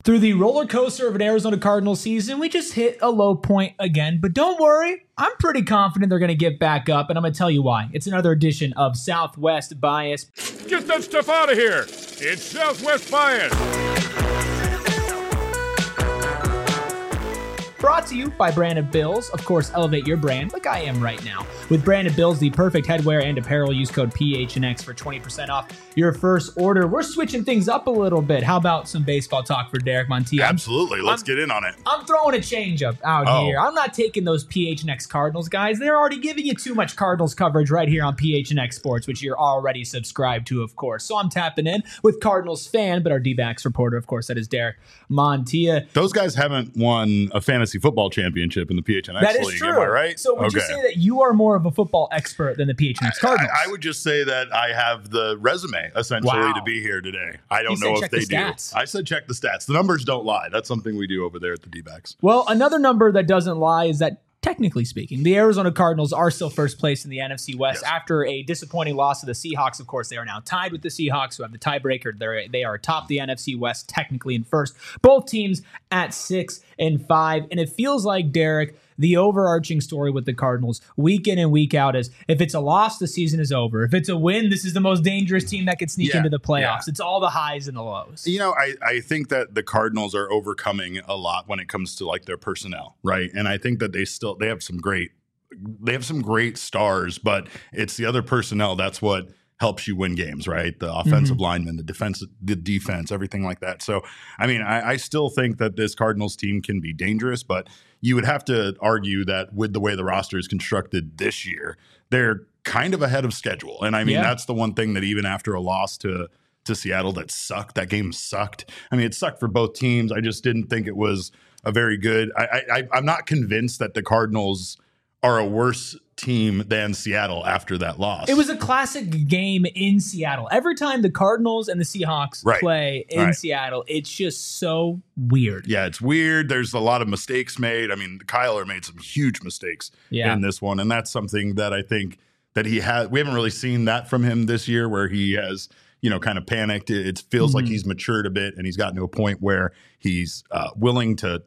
Through the roller coaster of an Arizona Cardinals season, we just hit a low point again. But don't worry, I'm pretty confident they're going to get back up, and I'm going to tell you why. It's another edition of Southwest Bias. Get that stuff out of here. It's Southwest Bias. Brought to you by Branded Bills. Of course, elevate your brand like I am right now. With Branded Bills, the perfect headwear and apparel, use code PHNX for 20% off your first order. We're switching things up a little bit. How about some baseball talk for Derek Montilla? Absolutely. Let's get in on it. I'm throwing a changeup out here. I'm not taking those PHNX Cardinals guys. They're already giving you too much Cardinals coverage right here on PHNX Sports, which you're already subscribed to, of course. So I'm tapping in with Cardinals fan, but our D-backs reporter, of course, that is Derek Montilla. Those guys haven't won a fantasy football championship in the PHNX that is league. True. Am I right? So would you say that you are more of a football expert than the PHNX Cardinals? I would just say that I have the resume, essentially, to be here today. I don't know if they do. I said check the stats. The numbers don't lie. That's something we do over there at the D-backs. Well, another number that doesn't lie is that, technically speaking, the Arizona Cardinals are still first place in the NFC West after a disappointing loss to the Seahawks. Of course, they are now tied with the Seahawks, who have the tiebreaker. They are atop the NFC West, technically in first. Both teams at 6-5, and it feels like, Derek, the overarching story with the Cardinals week in and week out is if it's a loss, the season is over. If it's a win, this is the most dangerous team that could sneak into the playoffs. It's all the highs and the lows. You know, I think that the Cardinals are overcoming a lot when it comes to like their personnel, right? And I think that they have some great stars, but it's the other personnel that's what helps you win games, right? The offensive linemen, the defense, everything like that. So, I mean, I still think that this Cardinals team can be dangerous, but you would have to argue that with the way the roster is constructed this year, they're kind of ahead of schedule. And I mean, that's the one thing that even after a loss to Seattle that game sucked. I mean, it sucked for both teams. I just didn't think it was a very good. I'm not convinced that the Cardinals are a worse team than Seattle after that loss. It was a classic game in Seattle. Every time the Cardinals and the Seahawks play in Seattle, it's just so weird. Yeah, it's weird. There's a lot of mistakes made. I mean, Kyler made some huge mistakes in this one, and that's something that I think that we haven't really seen that from him this year, where he has, kind of panicked. It feels like he's matured a bit, and he's gotten to a point where he's willing to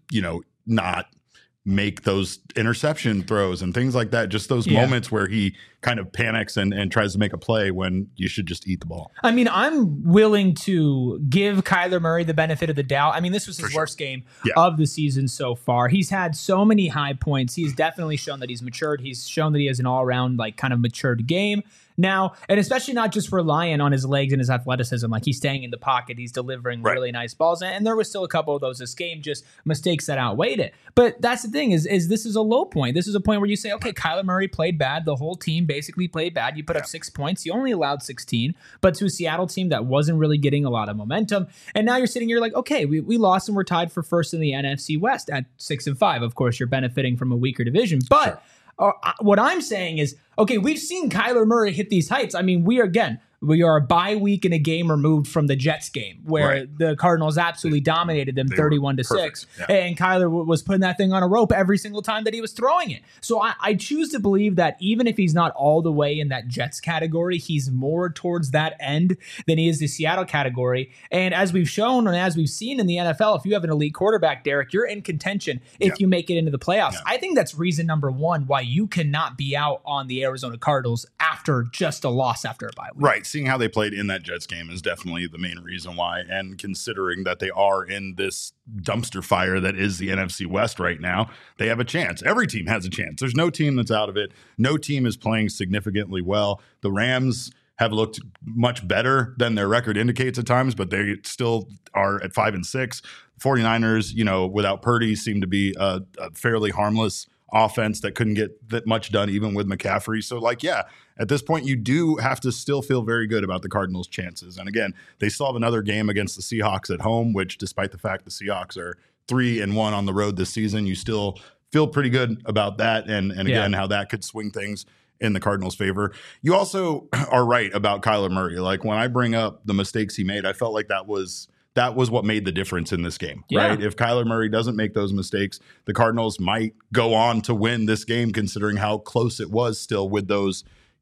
not make those interception throws and things like that. Just those moments where he kind of panics and tries to make a play when you should just eat the ball. I mean, I'm willing to give Kyler Murray the benefit of the doubt. I mean, this was his worst game of the season so far. He's had so many high points. He's definitely shown that he's matured. He's shown that he has an all-around, kind of matured game now, and especially not just relying on his legs and his athleticism. Like, he's staying in the pocket, he's delivering really nice balls, and there was still a couple of those this game, just mistakes that outweighed it. But that's the thing, is this is a low point. This is a point where you say, okay, Kyler Murray played bad. The whole team basically played bad. You put up 6 points. You only allowed 16, but to a Seattle team that wasn't really getting a lot of momentum. And now you're sitting here like, okay, we lost and we're tied for first in the NFC West at 6-5. Of course, you're benefiting from a weaker division, but what I'm saying is, okay, we've seen Kyler Murray hit these heights. I mean, we are a bye week and a game removed from the Jets game, where the Cardinals absolutely dominated them 31-6, and Kyler was putting that thing on a rope every single time that he was throwing it. So I choose to believe that even if he's not all the way in that Jets category, he's more towards that end than he is the Seattle category. And as we've shown and as we've seen in the NFL, if you have an elite quarterback, Derek, you're in contention if you make it into the playoffs. I think that's reason number one why you cannot be out on the Arizona Cardinals after just a loss after a bye week. Right. Seeing how they played in that Jets game is definitely the main reason why, and considering that they are in this dumpster fire that is the NFC West right now, they have a chance. Every team has a chance. There's no team that's out of it. No team is playing significantly well. The Rams have looked much better than their record indicates at times, but they still are at 5-6. 49ers, without Purdy, seem to be a fairly harmless offense that couldn't get that much done even with McCaffrey. So at this point, you do have to still feel very good about the Cardinals' chances. And again, they still have another game against the Seahawks at home, which, despite the fact the Seahawks are 3-1 on the road this season, you still feel pretty good about that. And again, how that could swing things in the Cardinals' favor. You also are right about Kyler Murray. Like, when I bring up the mistakes he made, I felt like that was what made the difference in this game, right? If Kyler Murray doesn't make those mistakes, the Cardinals might go on to win this game, considering how close it was still with those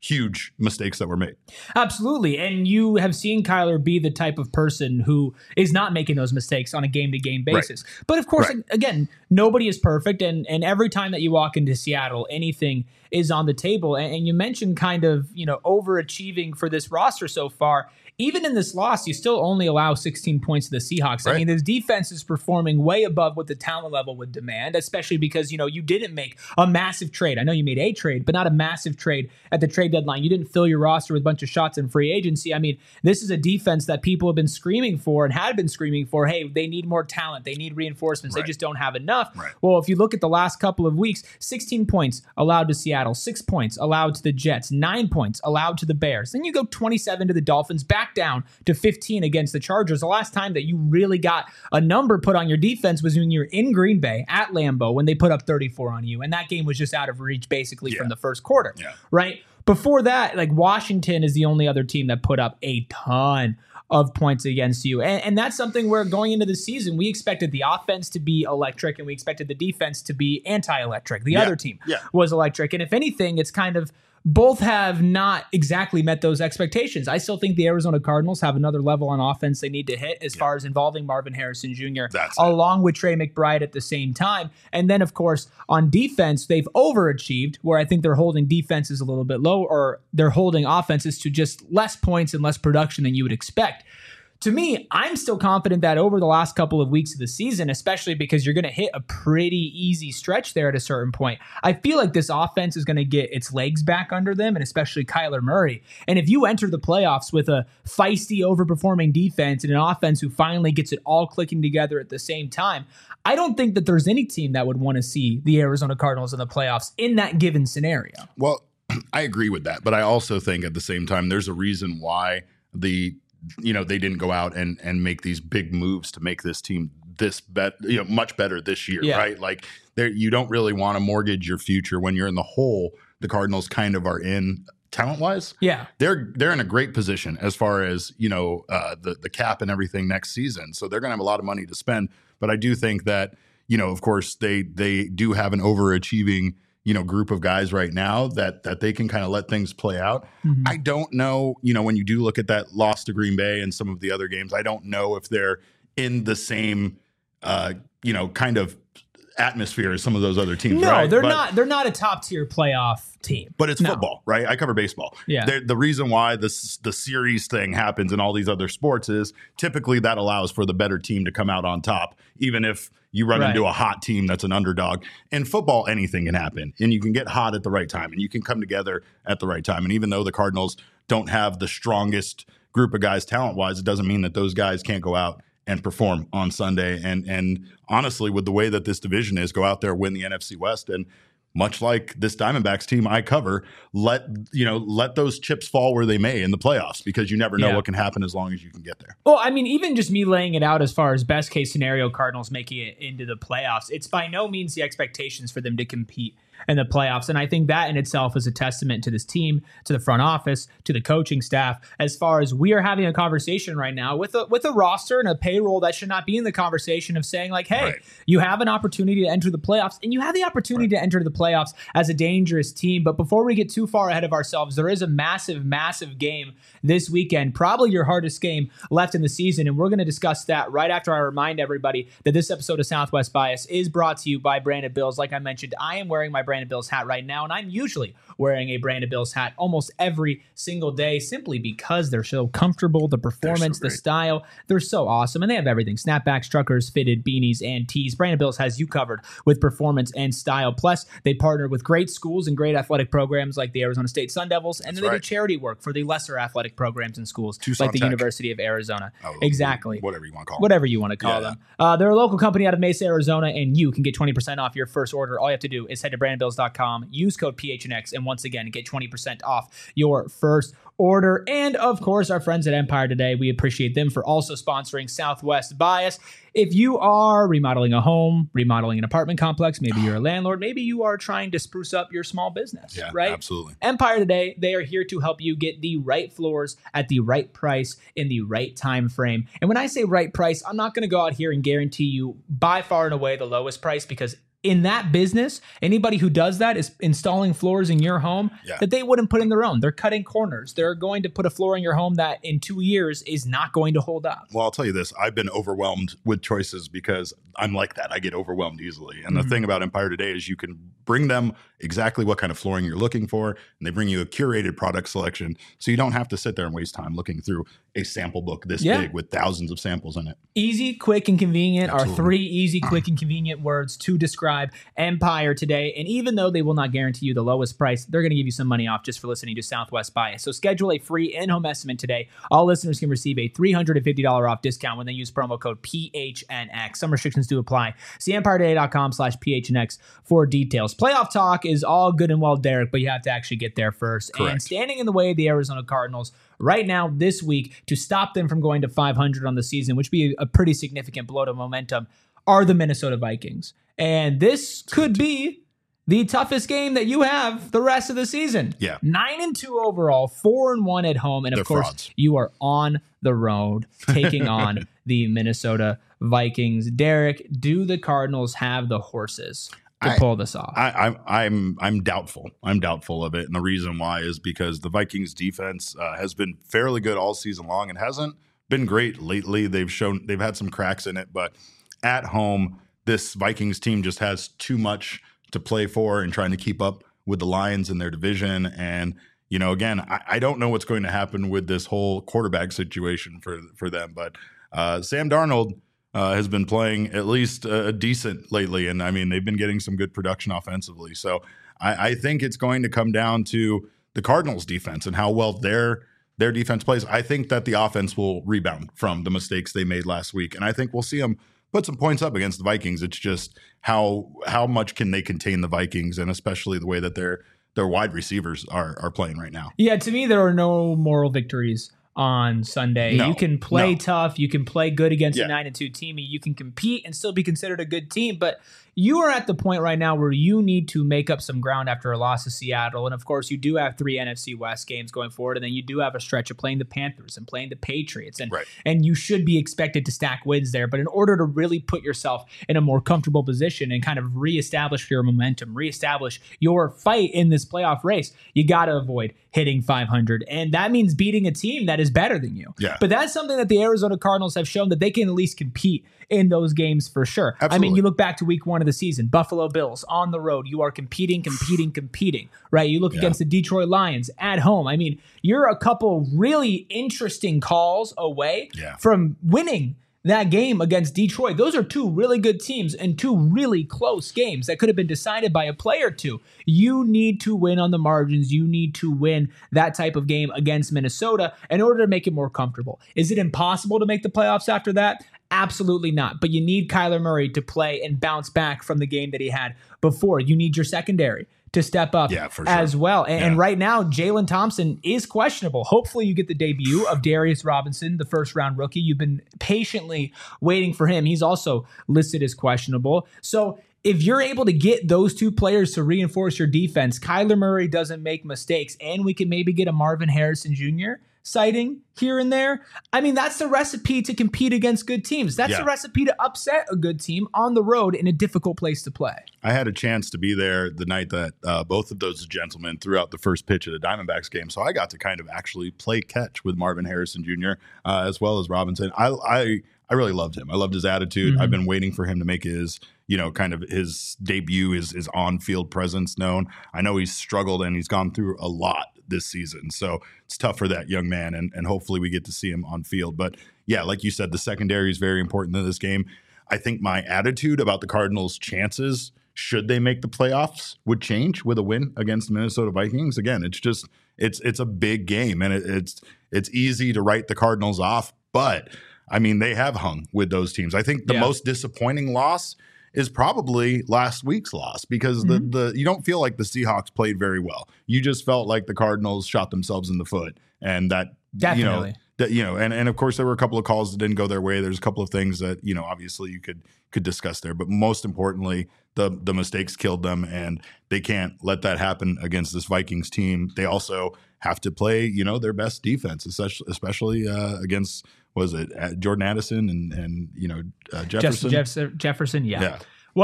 huge mistakes that were made. Absolutely. And you have seen Kyler be the type of person who is not making those mistakes on a game-to-game basis. Right. But of course, again, nobody is perfect. And every time that you walk into Seattle, anything is on the table. And you mentioned kind of, overachieving for this roster so far. Even in this loss, you still only allow 16 points to the Seahawks. Right. I mean, this defense is performing way above what the talent level would demand, especially because, you didn't make a massive trade. I know you made a trade, but not a massive trade at the trade deadline. You didn't fill your roster with a bunch of shots in free agency. I mean, this is a defense that people have been screaming for and had been screaming for. Hey, they need more talent. They need reinforcements. Right. They just don't have enough. Right. Well, if you look at the last couple of weeks, 16 points allowed to Seattle, 6 points allowed to the Jets, 9 points allowed to the Bears. Then you go 27 to the Dolphins, back down to 15 against the Chargers. The last time that you really got a number put on your defense was when you're in Green Bay at Lambeau when they put up 34 on you. And that game was just out of reach basically from the first quarter, right? Before that, like Washington is the only other team that put up a ton of points against you. And that's something where going into the season, we expected the offense to be electric and we expected the defense to be anti-electric. The other team was electric. And if anything, it's kind of both have not exactly met those expectations. I still think the Arizona Cardinals have another level on offense they need to hit as far as involving Marvin Harrison Jr. along with Trey McBride at the same time. And then, of course, on defense, they've overachieved where I think they're holding defenses a little bit low, or they're holding offenses to just less points and less production than you would expect. To me, I'm still confident that over the last couple of weeks of the season, especially because you're going to hit a pretty easy stretch there at a certain point, I feel like this offense is going to get its legs back under them, and especially Kyler Murray. And if you enter the playoffs with a feisty, overperforming defense and an offense who finally gets it all clicking together at the same time, I don't think that there's any team that would want to see the Arizona Cardinals in the playoffs in that given scenario. Well, I agree with that, but I also think at the same time, there's a reason why they didn't go out and make these big moves to make this team much better this year, right? Like you don't really want to mortgage your future when you're in the hole. The Cardinals kind of are in talent-wise. Yeah, they're in a great position as far as the cap and everything next season. So they're going to have a lot of money to spend. But I do think that of course they do have an overachieving group of guys right now that they can kind of let things play out. Mm-hmm. I don't know, when you do look at that loss to Green Bay and some of the other games, I don't know if they're in the same, kind of atmosphere as some of those other teams. No, right? They're not a top tier playoff team. But it's football, right? I cover baseball. Yeah. The reason why the series thing happens in all these other sports is typically that allows for the better team to come out on top, even if you run into a hot team that's an underdog. In football, anything can happen, and you can get hot at the right time, and you can come together at the right time. And even though the Cardinals don't have the strongest group of guys talent-wise, it doesn't mean that those guys can't go out and perform on Sunday. And honestly, with the way that this division is, go out there, win the NFC West, and much like this Diamondbacks team I cover, let those chips fall where they may in the playoffs, because you never know what can happen as long as you can get there. Well, I mean, even just me laying it out as far as best case scenario, Cardinals making it into the playoffs, it's by no means the expectations for them to compete in the playoffs. And I think that in itself is a testament to this team, to the front office, to the coaching staff, as far as we are having a conversation right now with a roster and a payroll that should not be in the conversation of saying like, hey, you have an opportunity to enter the playoffs, and you have the opportunity to enter the playoffs as a dangerous team. But before we get too far ahead of ourselves, there is a massive, massive game this weekend, probably your hardest game left in the season. And we're going to discuss that right after I remind everybody that this episode of Southwest Bias is brought to you by Branded Bills. Like I mentioned, I am wearing my Branded Bills hat right now, and I'm usually wearing a Branded Bills hat almost every single day simply because they're so comfortable, the performance, the style, they're so awesome, and they have everything: snapbacks, truckers, fitted, beanies, and tees. Branded Bills has you covered with performance and style. Plus, they partner with great schools and great athletic programs like the Arizona State Sun Devils, and then they do charity work for the lesser athletic programs and schools Tucson like the Tech. University of Arizona. Exactly. Whatever you want to call them. Whatever you want to call them. They're a local company out of Mesa, Arizona, and you can get 20% off your first order. All you have to do is head to brandedbills.com, use code PHNX, and once again, get 20% off your first order. And of course, our friends at Empire Today, we appreciate them for also sponsoring Southwest Bias. If you are remodeling a home, remodeling an apartment complex, maybe you're a landlord, maybe you are trying to spruce up your small business, right? Absolutely. Empire Today, they are here to help you get the right floors at the right price in the right time frame. And when I say right price, I'm not going to go out here and guarantee you by far and away the lowest price, because in that business, anybody who does that is installing floors in your home that they wouldn't put in their own. They're cutting corners. They're going to put a floor in your home that in 2 years is not going to hold up. Well, I'll tell you this. I've been overwhelmed with choices because I'm like that. I get overwhelmed easily. And the thing about Empire Today is you can bring them exactly what kind of flooring you're looking for, and they bring you a curated product selection so you don't have to sit there and waste time looking through a sample book this big with thousands of samples in it. Easy, quick, and convenient are 3 easy, quick, and convenient words to describe Empire Today. And even though they will not guarantee you the lowest price, they're going to give you some money off just for listening to Southwest Bias. So schedule a free in-home estimate today. All listeners can receive a $350 off discount when they use promo code PHNX. Some restrictions do apply. See EmpireToday.com/PHNX for details. Playoff talk is all good and well, Derek, but you have to actually get there first. Correct. And standing in the way of the Arizona Cardinals right now this week to stop them from going to 500 on the season, which would be a pretty significant blow to momentum, are the Minnesota Vikings. And this could be the toughest game that you have the rest of the season. 9-2 overall, 4-1 at home. And of course, frauds. You are on the road taking on the Minnesota Vikings. Derek, do the Cardinals have the horses to pull this off? I'm doubtful. I'm doubtful of it. And the reason why is because the Vikings defense has been fairly good all season long and hasn't been great lately. They've had some cracks in it, but at home, this Vikings team just has too much to play for and trying to keep up with the Lions in their division. And, you know, again, I don't know what's going to happen with this whole quarterback situation for them, but Sam Darnold has been playing at least decent lately. And I mean, they've been getting some good production offensively. So I think it's going to come down to the Cardinals defense and how well their defense plays. I think that the offense will rebound from the mistakes they made last week. And I think we'll see them put some points up against the Vikings. It's just how much can they contain the Vikings, and especially the way that their wide receivers are playing right now. Yeah, to me, there are no moral victories on Sunday. You can play tough. You can play good against a 9-2 team. You can compete and still be considered a good team. But you are at the point right now where you need to make up some ground after a loss to Seattle. And of course, you do have 3 NFC West games going forward. And then you do have a stretch of playing the Panthers and playing the Patriots. And you should be expected to stack wins there. But in order to really put yourself in a more comfortable position and kind of reestablish your momentum, reestablish your fight in this playoff race, you got to avoid hitting 500. And that means beating a team that is better than you. But that's something that the Arizona Cardinals have shown that they can at least compete in those games for sure. Absolutely. I mean, you look back to week 1 of the season, Buffalo Bills on the road. You are competing, right? You look against the Detroit Lions at home. I mean, you're a couple really interesting calls away from winning that game against Detroit. Those are 2 really good teams and 2 really close games that could have been decided by a play or 2. You need to win on the margins. You need to win that type of game against Minnesota in order to make it more comfortable. Is it impossible to make the playoffs after that? Absolutely not. But you need Kyler Murray to play and bounce back from the game that he had before. You need your secondary to step up as well. And right now, Jalen Thompson is questionable. Hopefully you get the debut of Darius Robinson, the first-round rookie. You've been patiently waiting for him. He's also listed as questionable. So if you're able to get those 2 players to reinforce your defense, Kyler Murray doesn't make mistakes, and we can maybe get a Marvin Harrison Jr. sighting here and there. I mean, that's the recipe to compete against good teams. That's the recipe to upset a good team on the road in a difficult place to play. I had a chance to be there the night that both of those gentlemen threw out the first pitch of the Diamondbacks game. So I got to kind of actually play catch with Marvin Harrison Jr. As well as Robinson. I really loved him. I loved his attitude. I've been waiting for him to make his, kind of his debut, his on-field presence known. I know he's struggled and he's gone through a lot this season. So it's tough for that young man, and hopefully we get to see him on field. But yeah, like you said, the secondary is very important in this game. I think my attitude about the Cardinals' chances, should they make the playoffs, would change with a win against the Minnesota Vikings. Again, it's a big game, and it's easy to write the Cardinals off, but I mean, they have hung with those teams. I think the most disappointing loss is probably last week's loss because you don't feel like the Seahawks played very well. You just felt like the Cardinals shot themselves in the foot, and that definitely. And of course there were a couple of calls that didn't go their way. There's a couple of things that obviously you could discuss there, but most importantly, the mistakes killed them, and they can't let that happen against this Vikings team. They also have to play their best defense, especially against. Was it Jordan Addison and Jefferson? Jefferson, yeah. Well,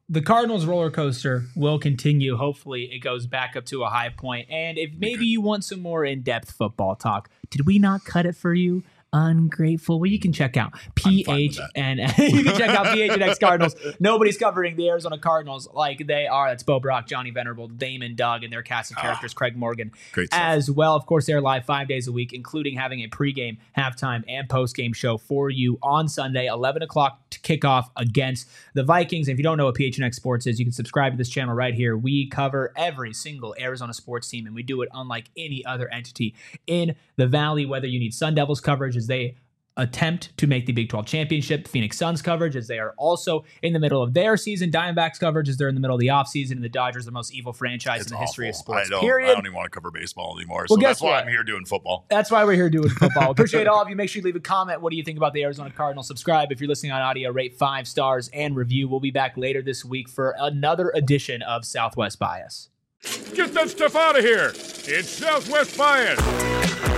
the Cardinals roller coaster will continue. Hopefully it goes back up to a high point. And if maybe you want some more in-depth football talk, did we not cut it for you? Ungrateful. Well, you can check out PHNX. You can check out PHNX Cardinals. Nobody's covering the Arizona Cardinals like they are. That's Bo Brock, Johnny Venerable, Damon Doug, and their cast of characters, Craig Morgan, as well. Of course, they're live 5 days a week, including having a pregame, halftime, and postgame show for you on Sunday, 11 o'clock to kick off against the Vikings. And if you don't know what PHNX Sports is, you can subscribe to this channel right here. We cover every single Arizona sports team, and we do it unlike any other entity in the Valley, whether you need Sun Devils coverage as they attempt to make the Big 12 championship, Phoenix Suns coverage as they are also in the middle of their season, Diamondbacks coverage as they're in the middle of the offseason, and the Dodgers, the most evil franchise in the history of sports, period. I don't even want to cover baseball anymore, so that's why I'm here doing football. That's why we're here doing football. Appreciate all of you. Make sure you leave a comment. What do you think about the Arizona Cardinals? Subscribe if you're listening on audio, rate 5 stars, and review. We'll be back later this week for another edition of Southwest Bias. Get that stuff out of here. It's Southwest Bias.